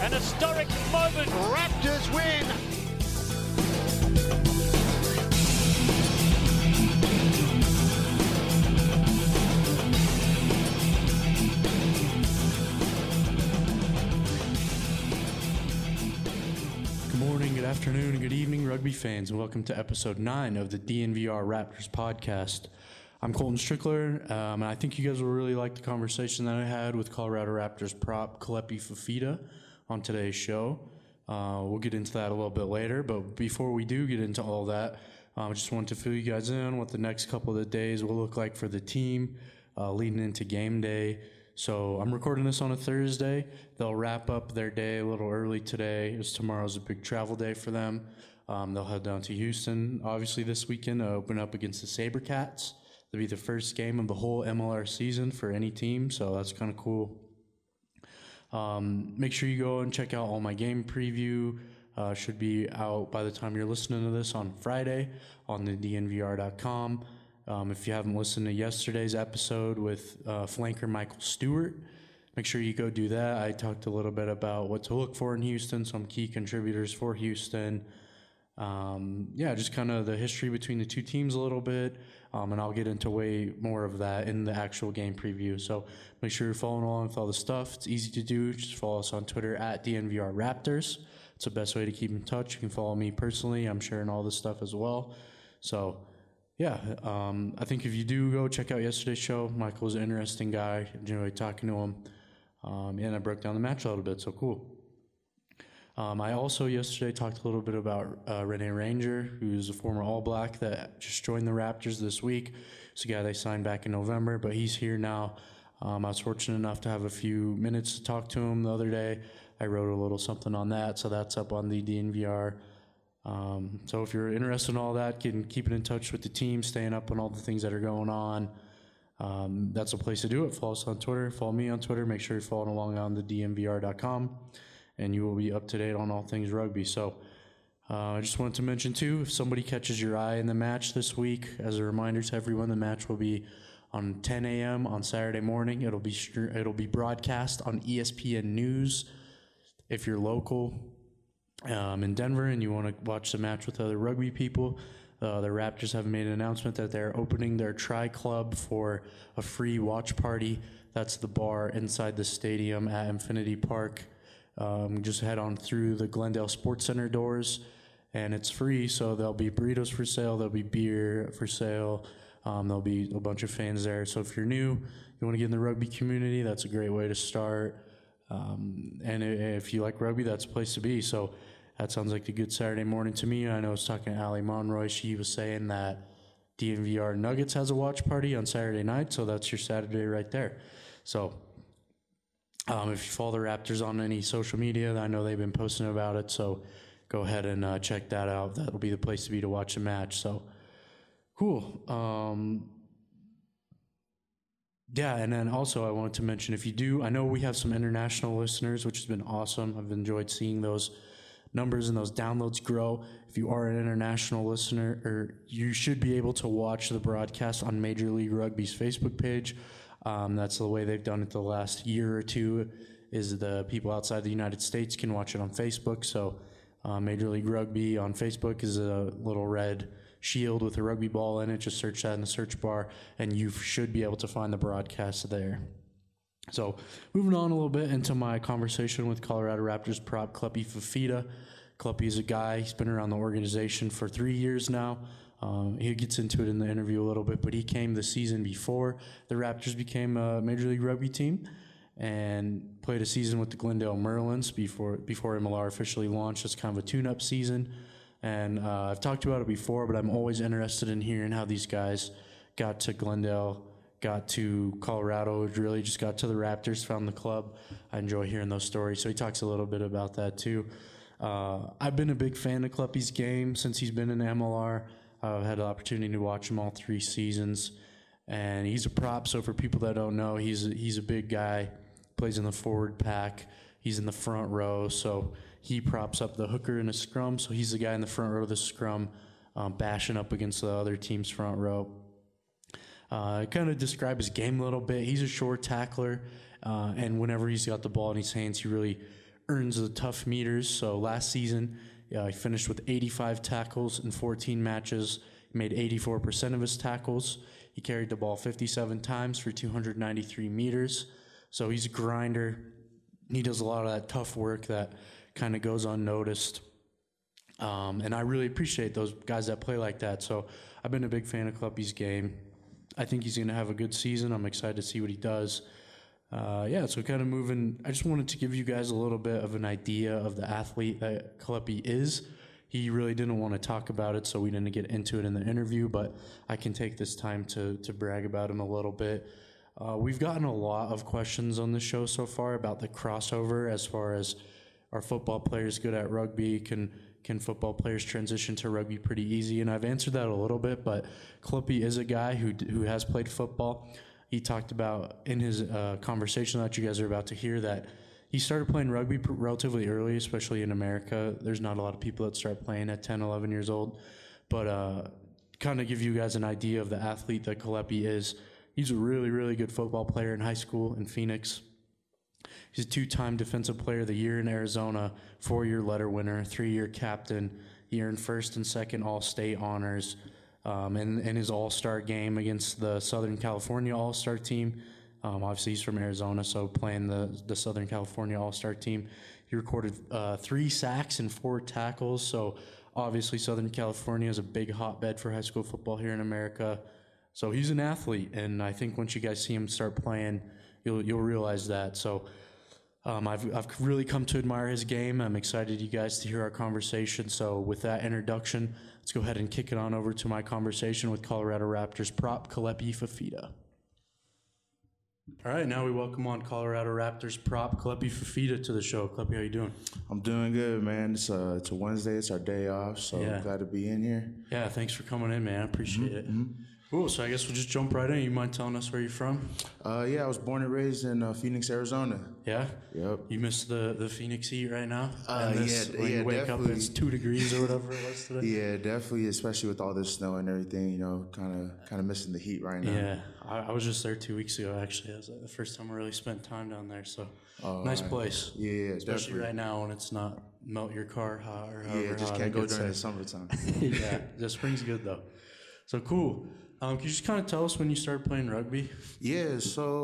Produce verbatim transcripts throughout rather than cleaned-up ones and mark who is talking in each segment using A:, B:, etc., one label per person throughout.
A: An historic moment.
B: Raptors win.
C: Good morning, good afternoon, and good evening, rugby fans, and welcome to episode nine of the D N V R Raptors podcast. I'm Colton Strickler, um, and I think you guys will really like the conversation that I had with Colorado Raptors prop Kalepi Fifita on today's show. Uh, we'll get into that a little bit later, but before we do get into all that, I um, just wanted to fill you guys in on what the next couple of days will look like for the team uh, leading into game day. So I'm recording this on a Thursday. They'll wrap up their day a little early today, as tomorrow's a big travel day for them. Um, they'll head down to Houston, obviously, this weekend to open up against the SaberCats. It'll be the first game of the whole M L R season for any team, so that's kind of cool. Um, make sure you go and check out all my game preview. Uh, should be out by the time you're listening to this on Friday on the D N V R dot com. Um, if you haven't listened to yesterday's episode with uh, flanker Michael Stewart, make sure you go do that. I talked a little bit about what to look for in Houston, some key contributors for Houston. Um, yeah, just kind of the history between the two teams a little bit, um, and I'll get into way more of that in the actual game preview. So make sure you're following along with all the stuff. It's easy to do. Just follow us on Twitter at D N V R Raptors. It's the best way to keep in touch. You can follow me personally. I'm sharing all this stuff as well. So yeah, um, I think if you do go check out yesterday's show, Michael was an interesting guy. Enjoyed talking to him. Um, and I broke down the match a little bit, so cool. Um, I also yesterday talked a little bit about uh, Rene Ranger, who's a former All Black that just joined the Raptors this week. It's a guy they signed back in November, but he's here now. Um, I was fortunate enough to have a few minutes to talk to him the other day. I wrote a little something on that, so that's up on the D N V R. Um, so if you're interested in all that, getting, keeping in touch with the team, staying up on all the things that are going on, um, that's a place to do it. Follow us on Twitter. Follow me on Twitter. Make sure you're following along on the D N V R dot com, and you will be up to date on all things rugby. So uh, I just wanted to mention, too, if somebody catches your eye in the match this week, as a reminder to everyone, the match will be on ten a.m. on Saturday morning. It'll be it'll be broadcast on E S P N News. If you're local um, in Denver and you want to watch the match with other rugby people, uh, the Raptors have made an announcement that they're opening their Tri Club for a free watch party. That's the bar inside the stadium at Infinity Park. Um, just head on through the Glendale Sports Center doors, and it's free, so there'll be burritos for sale, there'll be beer for sale, um, there'll be a bunch of fans there. So if you're new, you want to get in the rugby community, that's a great way to start. Um, and if you like rugby, that's a place to be. So that sounds like a good Saturday morning to me. I know I was talking to Ali Monroy. She was saying that D N V R Nuggets has a watch party on Saturday night, so that's your Saturday right there. So um, if you follow the Raptors on any social media, I know they've been posting about it, so go ahead and uh, check that out. That'll be the place to be to watch a match. So cool. Um, Yeah, and then also I wanted to mention, if you do, I know we have some international listeners, which has been awesome. I've enjoyed seeing those numbers and those downloads grow. If you are an international listener, or you should be able to watch the broadcast on Major League Rugby's Facebook page. Um, that's the way they've done it the last year or two, is the people outside the United States can watch it on Facebook. So uh, Major League Rugby on Facebook is a little red shield with a rugby ball in it. Just search that in the search bar, and you should be able to find the broadcast there. So moving on a little bit into my conversation with Colorado Raptors prop Kalepi Fifita. Kalepi is a guy, he's been around the organization for three years now. Um, he gets into it in the interview a little bit, but he came the season before the Raptors became a Major League Rugby team and played a season with the Glendale Merlins before before M L R officially launched as kind of a tune-up season. And uh, I've talked about it before, but I'm always interested in hearing how these guys got to Glendale, got to Colorado, really just got to the Raptors, found the club. I enjoy hearing those stories. So he talks a little bit about that too. Uh, I've been a big fan of Kalepi's game since he's been in M L R. I've had the opportunity to watch him all three seasons. And he's a prop, so for people that don't know, he's a, he's a big guy, plays in the forward pack. He's in the front row, so he props up the hooker in a scrum, so he's the guy in the front row of the scrum, um, bashing up against the other team's front row. Uh, I kind of describe his game a little bit. He's a short tackler, uh, and whenever he's got the ball in his hands, he really earns the tough meters. So last season, uh, he finished with eighty-five tackles in fourteen matches. He made eighty-four percent of his tackles. He carried the ball fifty-seven times for two hundred ninety-three meters. So he's a grinder. He does a lot of that tough work that kind of goes unnoticed. Um, and I really appreciate those guys that play like that. So I've been a big fan of Kleppy's game. I think he's going to have a good season. I'm excited to see what he does. Uh, yeah, so kind of moving, I just wanted to give you guys a little bit of an idea of the athlete that Kleppy is. He really didn't want to talk about it, so we didn't get into it in the interview, but I can take this time to, to brag about him a little bit. Uh, we've gotten a lot of questions on the show so far about the crossover as far as are football players good at rugby? Can can football players transition to rugby pretty easy? And I've answered that a little bit, but Kleppy is a guy who who has played football. He talked about in his uh, conversation that you guys are about to hear that he started playing rugby pr- relatively early, especially in America. There's not a lot of people that start playing at ten, eleven years old. But uh, kind of give you guys an idea of the athlete that Kleppy is. He's a really, really good football player in high school in Phoenix. He's a two-time Defensive Player of the Year in Arizona, four-year letter winner, three-year captain. He earned first and second All-State honors um, in, in his All-Star game against the Southern California All-Star team. Um, obviously, he's from Arizona, so playing the, the Southern California All-Star team. He recorded uh, three sacks and four tackles, so obviously Southern California is a big hotbed for high school football here in America. So he's an athlete, and I think once you guys see him start playing, you'll you'll realize that. So um, I've I've really come to admire his game. I'm excited you guys to hear our conversation. So with that introduction, let's go ahead and kick it on over to my conversation with Colorado Raptors prop Kalepi Fafita. All right, now we welcome on Colorado Raptors prop Kalepi Fafita to the show. Kalepi, how you doing?
A: I'm doing good, man. It's a, it's a Wednesday. It's our day off, so
C: Yeah.
A: glad to be in here.
C: Yeah, thanks for coming in, man. I appreciate
A: Mm-hmm.
C: it. Cool, so I guess we'll just jump right in. You mind telling us where you're from?
A: Uh, yeah, I was born and raised in uh, Phoenix, Arizona.
C: Yeah?
A: Yep.
C: You miss the, the Phoenix heat right now?
A: Uh,
C: And this,
A: yeah,
C: when
A: yeah,
C: you wake
A: definitely.
C: up, it's two degrees or whatever it was today?
A: Yeah, definitely, especially with all this snow and everything, you know, kind of kind of missing the heat right now.
C: Yeah, I, I was just there two weeks ago, actually. It was the first time I really spent time down there, so
A: Oh,
C: nice
A: right.
C: place.
A: Yeah, yeah,
C: Especially
A: definitely.
C: right now when it's not melt your car hot or however
A: Yeah, just
C: hot
A: can't
C: it
A: go
C: gets
A: during
C: there.
A: the summertime.
C: Yeah, the spring's good though. So cool. Um, can you just kind of tell us when you started playing rugby?
A: Yeah,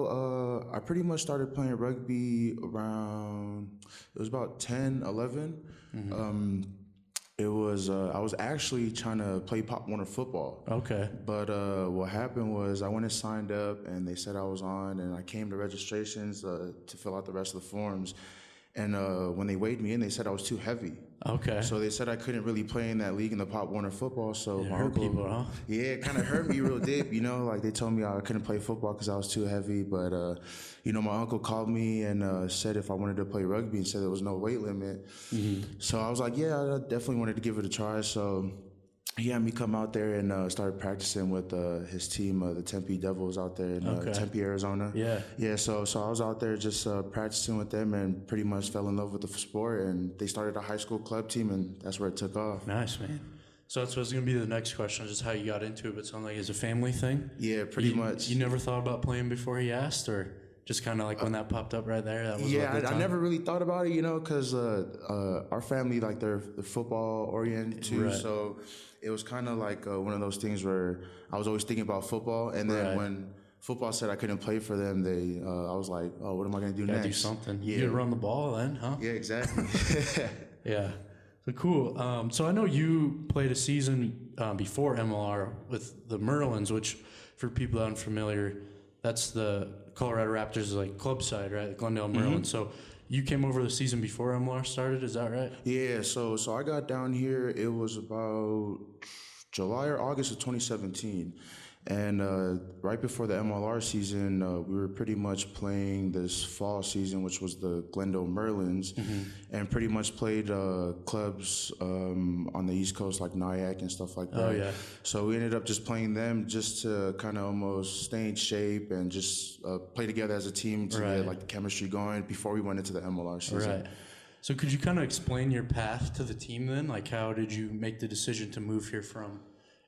A: so uh, I pretty much started playing rugby around, it was about ten, eleven.
C: Mm-hmm.
A: Um, it was, uh, I was actually trying to play Pop Warner football.
C: Okay.
A: But uh, what happened was I went and signed up, and they said I was on, and I came to registrations uh, to fill out the rest of the forms. And uh, when they weighed me in, they said I was too heavy.
C: Okay.
A: So they said I couldn't really play in that league in the Pop Warner football. So
C: It
A: my
C: hurt
A: uncle,
C: people, huh?
A: yeah, it kind of hurt me real deep. You know, like they told me I couldn't play football because I was too heavy. But uh, you know, my uncle called me and uh, said if I wanted to play rugby, and said there was no weight limit. Mm-hmm. So I was like, yeah, I definitely wanted to give it a try. So he had me come out there and uh, started practicing with uh, his team, uh, the Tempe Devils, out there in uh,
C: Okay.
A: Tempe, Arizona.
C: Yeah.
A: Yeah, so so I was out there just uh, practicing with them and pretty much fell in love with the sport. And they started a high school club team, and that's where it took off.
C: Nice, man. So that's what's going to be the next question, just how you got into it. But it sounds like it's a family thing.
A: Yeah, pretty
C: you,
A: much.
C: You never thought about playing before he asked, or just kind of like when that popped up right there? That was
A: Yeah,
C: a good
A: I, I
C: time?
A: never really thought about it, you know, because uh, uh, our family, like, they're, they're football oriented too.
C: Right.
A: So it was kind of like uh, one of those things where I was always thinking about football. And then
C: Right.
A: when football said I couldn't play for them, they uh, I was like, oh, what am I going to do
C: Gotta
A: next?
C: do something.
A: Yeah.
C: You could run the ball then, huh?
A: Yeah, exactly.
C: Yeah. So cool. Um, so I know you played a season uh, before M L R with the Merlins, which for people that aren't familiar, that's the Colorado Raptors like club side, right? The Glendale Merlins. So you came over the season before M L R started, is that right?
A: Yeah, so so I got down here, it was about July or August of twenty seventeen. And uh, right before the M L R season, uh, we were pretty much playing this fall season, which was the Glendale Merlins,
C: Mm-hmm.
A: and pretty much played uh, clubs um, on the East Coast like Nyack and stuff like that.
C: Oh, yeah.
A: So we ended up just playing them just to kind of almost stay in shape and just uh, play together as a team to
C: Right.
A: get like the chemistry going before we went into the M L R season.
C: Right. So could you kind of explain your path to the team then? Like how did you make the decision to move here from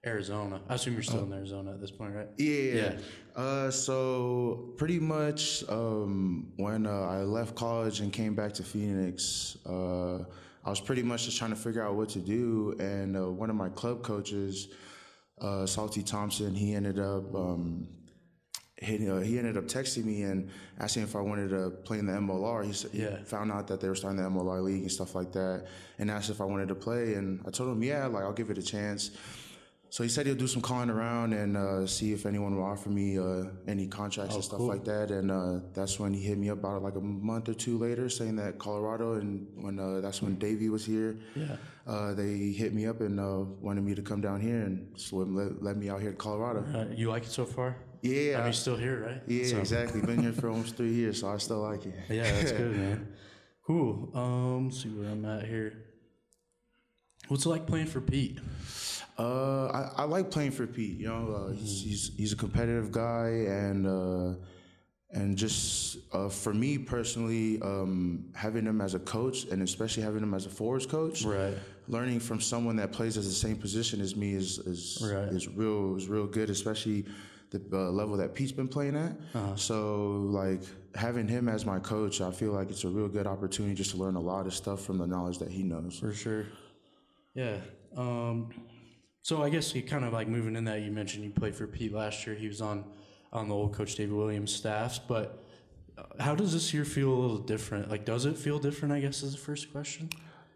C: Arizona. I assume you're still oh. in Arizona at this point, right?
A: Yeah. yeah. Uh, so pretty much um, when uh, I left college and came back to Phoenix, uh, I was pretty much just trying to figure out what to do. And uh, one of my club coaches, uh, Salty Thompson, he ended up um, he, uh, he ended up texting me and asking if I wanted to play in the M L R. He, yeah. he found out that they were starting the M L R league and stuff like that, and asked if I wanted to play. And I told him, yeah, like I'll give it a chance. So he said he'll do some calling around and uh, see if anyone will offer me uh, any contracts oh, and stuff cool. like that. And uh, that's when he hit me up about like a month or two later, saying that Colorado, and when uh, that's when Davey was here. Yeah. Uh, they hit me up and uh, wanted me to come down here and swim, let, let me out here to Colorado.
C: Uh, you like it so far?
A: Yeah.
C: I mean, you're still here, right?
A: Yeah, so. exactly. Been here for almost three years, so I still like it.
C: Yeah, that's good, man. Cool. Um, let's see where I'm at here. What's it like playing for Pete?
A: Uh, I, I like playing for Pete. You know, uh, he's, he's he's a competitive guy, and uh, and just uh, for me personally, um, having him as a coach, and especially having him as a forwards coach,
C: right.
A: learning from someone that plays as the same position as me is is
C: right.
A: is real is real good, especially the uh, level that Pete's been playing at. Uh-huh. So like having him as my coach, I feel like it's a real good opportunity just to learn a lot of stuff from the knowledge that he knows.
C: For sure. Yeah. Um, So I guess you kind of like moving in that, you mentioned you played for Pete last year. He was on, on the old Coach David Williams staffs. But how does this year feel a little different? Like, does it feel different, I guess, is the first question?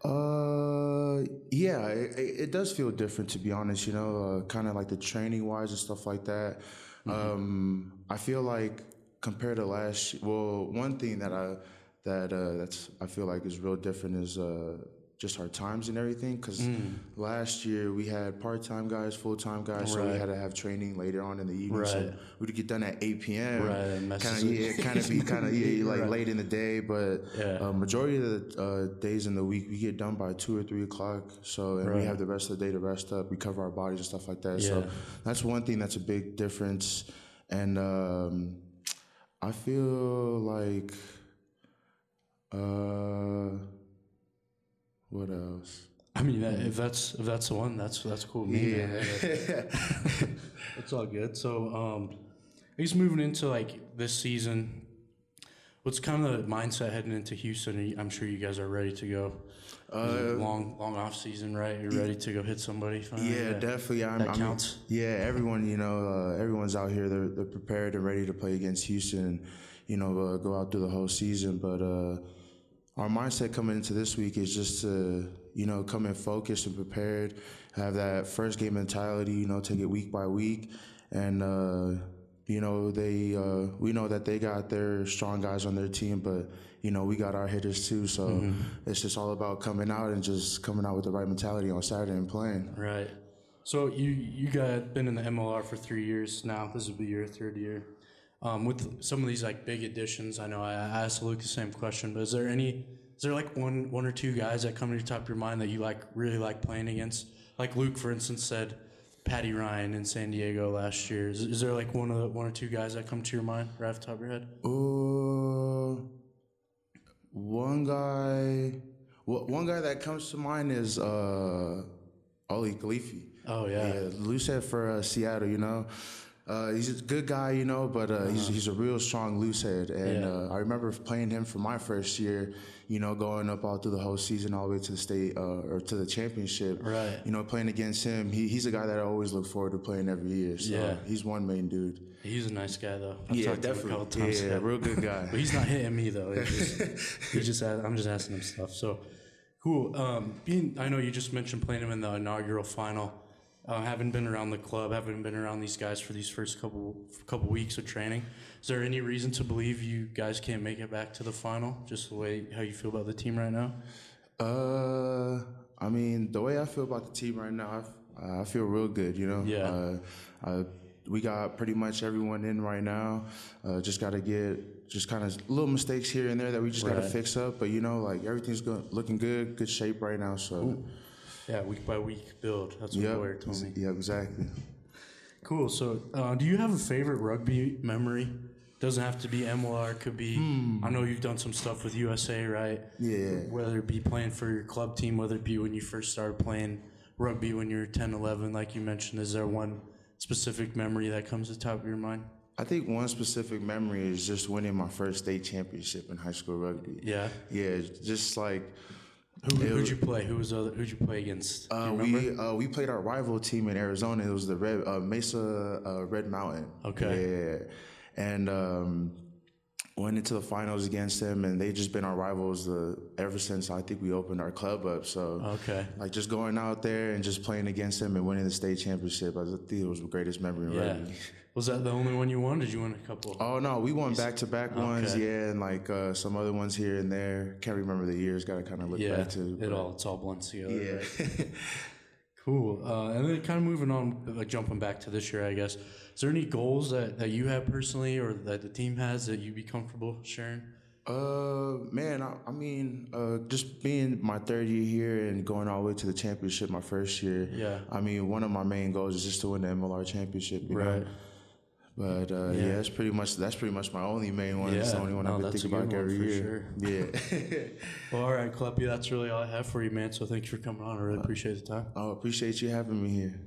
A: Uh, yeah, it, it does feel different, to be honest, you know, uh, kind of like the training-wise and stuff like that. Mm-hmm. Um, I feel like compared to last year, well, one thing that I, that uh, that's I feel like is real different is uh, just our times and everything, because mm. last year we had part-time guys, full-time guys, right. so we had to have training later on in the evening.
C: Right.
A: So we'd get done at eight p.m.
C: Right,
A: kind of yeah, kind of be kind of yeah, like right. late in the day, but
C: yeah.
A: uh, majority of the uh, days in the week we get done by two or three o'clock. So and right. we have the rest of the day to rest up, recover our bodies and stuff like that.
C: Yeah.
A: So that's one thing that's a big difference, and um, I feel like. Uh, What else?
C: I mean, if that's if that's the one, that's that's cool. Me,
A: yeah,
C: it's all good. So, um, I guess moving into like this season, what's kind of the mindset heading into Houston? I'm sure you guys are ready to go. Uh, long long off season, right? You're ready to go hit somebody. Finally.
A: Yeah, yeah, definitely. I'm,
C: that
A: I'm,
C: counts.
A: Yeah, everyone, you know, uh, everyone's out here. They're they're prepared and ready to play against Houston, and you know, uh, go out through the whole season, but. Uh, Our mindset coming into this week is just to, you know, come in focused and prepared, have that first game mentality, you know, take it week by week. And, uh, you know, they, uh, we know that they got their strong guys on their team, but, you know, we got our hitters too. So mm-hmm. it's just all about coming out and just coming out with the right mentality on Saturday and playing.
C: Right. So you, you got been in the M L R for three years now. This will be your third year. Um, with some of these like big additions, I know I asked Luke the same question, but is there any, is there like one, one or two guys that come to the top of your mind that you like really like playing against? Like Luke, for instance, said Patty Ryan in San Diego last year. Is, is there like one of the, one or two guys that come to your mind right off the top of your head?
A: Uh, one guy, well, one guy that comes to mind is uh, Oli Khalifi.
C: Oh yeah,
A: yeah, Loosehead for uh, Seattle, you know. Uh, he's a good guy, you know, but uh, uh-huh. he's he's a real strong loosehead. And yeah. uh, I remember playing him for my first year, you know, going up all through the whole season, all the way to the state uh, or to the championship.
C: Right.
A: You know, playing against him, he, he's a guy that I always look forward to playing every year. So
C: yeah.
A: he's one main dude.
C: He's a nice guy, though. I've
A: yeah, definitely.
C: To him a couple times.
A: Yeah, yeah, real good guy.
C: But he's not hitting me, though. It's just, he just I'm just asking him stuff. So, cool. Um, being, I know you just mentioned playing him in the inaugural final. Uh, haven't been around the club, haven't been around these guys for these first couple couple weeks of training. Is there any reason to believe you guys can't make it back to the final? Just the way how you feel about the team right now?
A: Uh, I mean, the way I feel about the team right now, I, I feel real good. You know,
C: yeah.
A: Uh, uh, we got pretty much everyone in right now. Uh, just got to get just kind of little mistakes here and there that we just
C: right.
A: got to fix up. But you know, like everything's go- looking good, good shape right now. So.
C: Ooh. Yeah, week by week build. That's what
A: yep.
C: Boyer told me.
A: Yeah, exactly.
C: Cool. So, uh, do you have a favorite rugby memory? Doesn't have to be M L R. Could be. Hmm. I know you've done some stuff with U S A, right?
A: Yeah.
C: Whether it be playing for your club team, whether it be when you first started playing rugby when you were ten, eleven, like you mentioned? Is there one specific memory that comes to the top of your mind?
A: I think one specific memory is just winning my first state championship in high school rugby.
C: Yeah?
A: Yeah, just like...
C: Who, who'd you play? Who was other, who'd you play against?
A: Uh, we uh, we played our rival team in Arizona. It was the Red uh, Mesa uh, Red Mountain.
C: Okay.
A: Yeah, and um, went into the finals against them, and they just been our rivals uh, ever since I think we opened our club up. So
C: okay,
A: like just going out there and just playing against them and winning the state championship, I think it was the greatest memory in
C: yeah.
A: rugby.
C: Was that the only one you won? Did you win a couple?
A: Oh no, we won back to back ones,
C: okay.
A: yeah, and like uh, some other ones here and there. Can't remember the years. Got to kind of look
C: yeah,
A: back to
C: it all. It's all blends together.
A: Yeah.
C: Right? Cool. Uh, and then kind of moving on, like jumping back to this year, I guess. Is there any goals that, that you have personally, or that the team has, that you'd be comfortable sharing?
A: Uh, man, I, I mean, uh, just being my third year here and going all the way to the championship my first year.
C: Yeah.
A: I mean, one of my main goals is just to win the M L R championship. You
C: right.
A: know? But uh, yeah. yeah, that's pretty much that's pretty much my only main one.
C: Yeah.
A: It's the only one
C: no,
A: I've been thinking about every year.
C: Sure.
A: Yeah.
C: Well, all right, Kleppy, that's really all I have for you, man. So thanks for coming on. I really appreciate the time.
A: Oh, appreciate you having me here.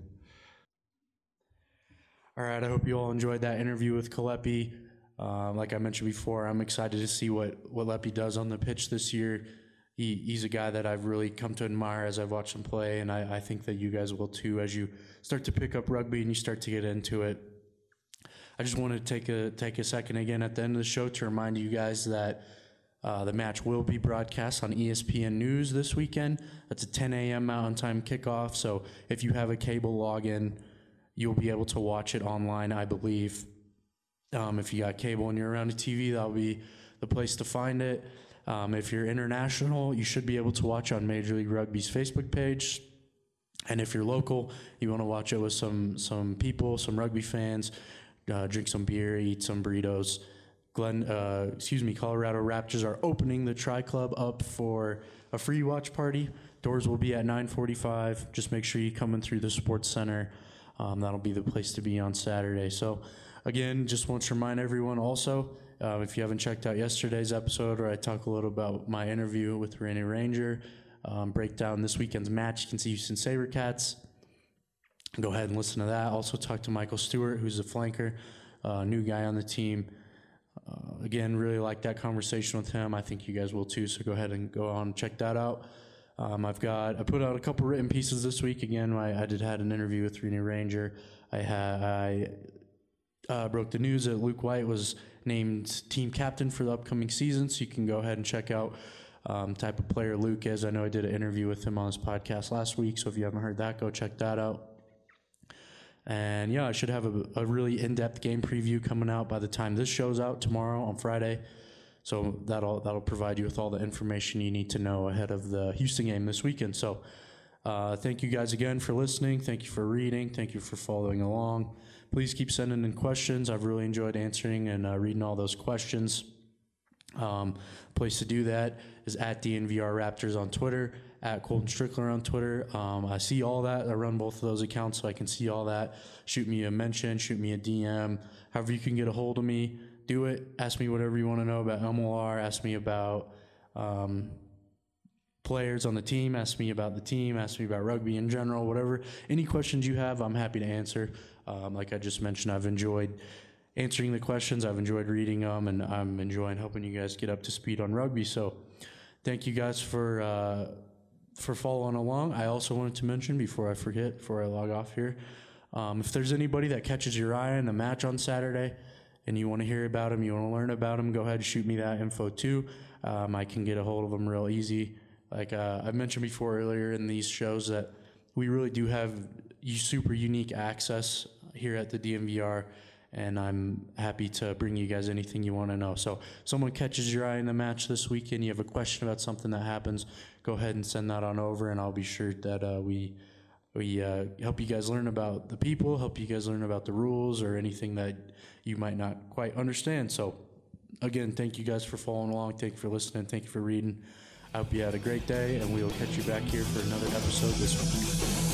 C: All right, I hope you all enjoyed that interview with Kleppy. Uh, like I mentioned before, I'm excited to see what what Leppy does on the pitch this year. He, he's a guy that I've really come to admire as I've watched him play, and I, I think that you guys will too as you start to pick up rugby and you start to get into it. I just want to take a take a second again at the end of the show to remind you guys that uh, the match will be broadcast on E S P N News this weekend. That's a ten a.m. Mountain Time kickoff, so if you have a cable login, you'll be able to watch it online, I believe. Um, if you got cable and you're around a T V, that'll be the place to find it. Um, if you're international, you should be able to watch on Major League Rugby's Facebook page. And if you're local, you want to watch it with some some people, some rugby fans, uh, drink some beer, eat some burritos. Glenn, uh, excuse me, Colorado Raptors are opening the Tri Club up for a free watch party. Doors will be at nine forty-five. Just make sure you come in through the Sports Center. Um, that'll be the place to be on Saturday. So, again, just want to remind everyone also, uh, if you haven't checked out yesterday's episode where I talk a little about my interview with Rennie Ranger, um, break down this weekend's match against the Houston SaberCats, go ahead and listen to that. Also talk to Michael Stewart, who's a flanker, uh, new guy on the team. Uh, again, really like that conversation with him. I think you guys will too, so go ahead and go on and check that out. Um, I've got, I put out a couple written pieces this week. Again, I, I did had an interview with Rennie Ranger. I had, I uh, broke the news that Luke White was named team captain for the upcoming season, so you can go ahead and check out um, type of player Luke is. I know I did an interview with him on his podcast last week, so if you haven't heard that, go check that out. And yeah, I should have a, a really in-depth game preview coming out by the time this show's out tomorrow on Friday. So that'll that'll provide you with all the information you need to know ahead of the Houston game this weekend. So uh, thank you guys again for listening. Thank you for reading. Thank you for following along. Please keep sending in questions. I've really enjoyed answering and uh, reading all those questions. Um, place to do that is at D N V R Raptors on Twitter, at Colton Strickler on Twitter. Um, I see all that. I run both of those accounts, so I can see all that. Shoot me a mention, shoot me a D M. However you can get a hold of me, do it. Ask me whatever you want to know about M L R. Ask me about um, players on the team. Ask me about the team. Ask me about rugby in general, whatever. Any questions you have, I'm happy to answer. Um, like I just mentioned, I've enjoyed answering the questions. I've enjoyed reading them, and I'm enjoying helping you guys get up to speed on rugby. So thank you guys for uh, for following along. I also wanted to mention, before I forget, before I log off here, um, if there's anybody that catches your eye in the match on Saturday and you want to hear about them, you want to learn about them, go ahead and shoot me that info too. Um, I can get a hold of them real easy. Like uh, I mentioned before earlier in these shows that we really do have super unique access here at the D N V R, and I'm happy to bring you guys anything you want to know. So someone catches your eye in the match this weekend, you have a question about something that happens, go ahead and send that on over, and I'll be sure that uh, we we uh, help you guys learn about the people, help you guys learn about the rules, or anything that you might not quite understand. So again, thank you guys for following along. Thank you for listening. Thank you for reading. I hope you had a great day, and we will catch you back here for another episode this week.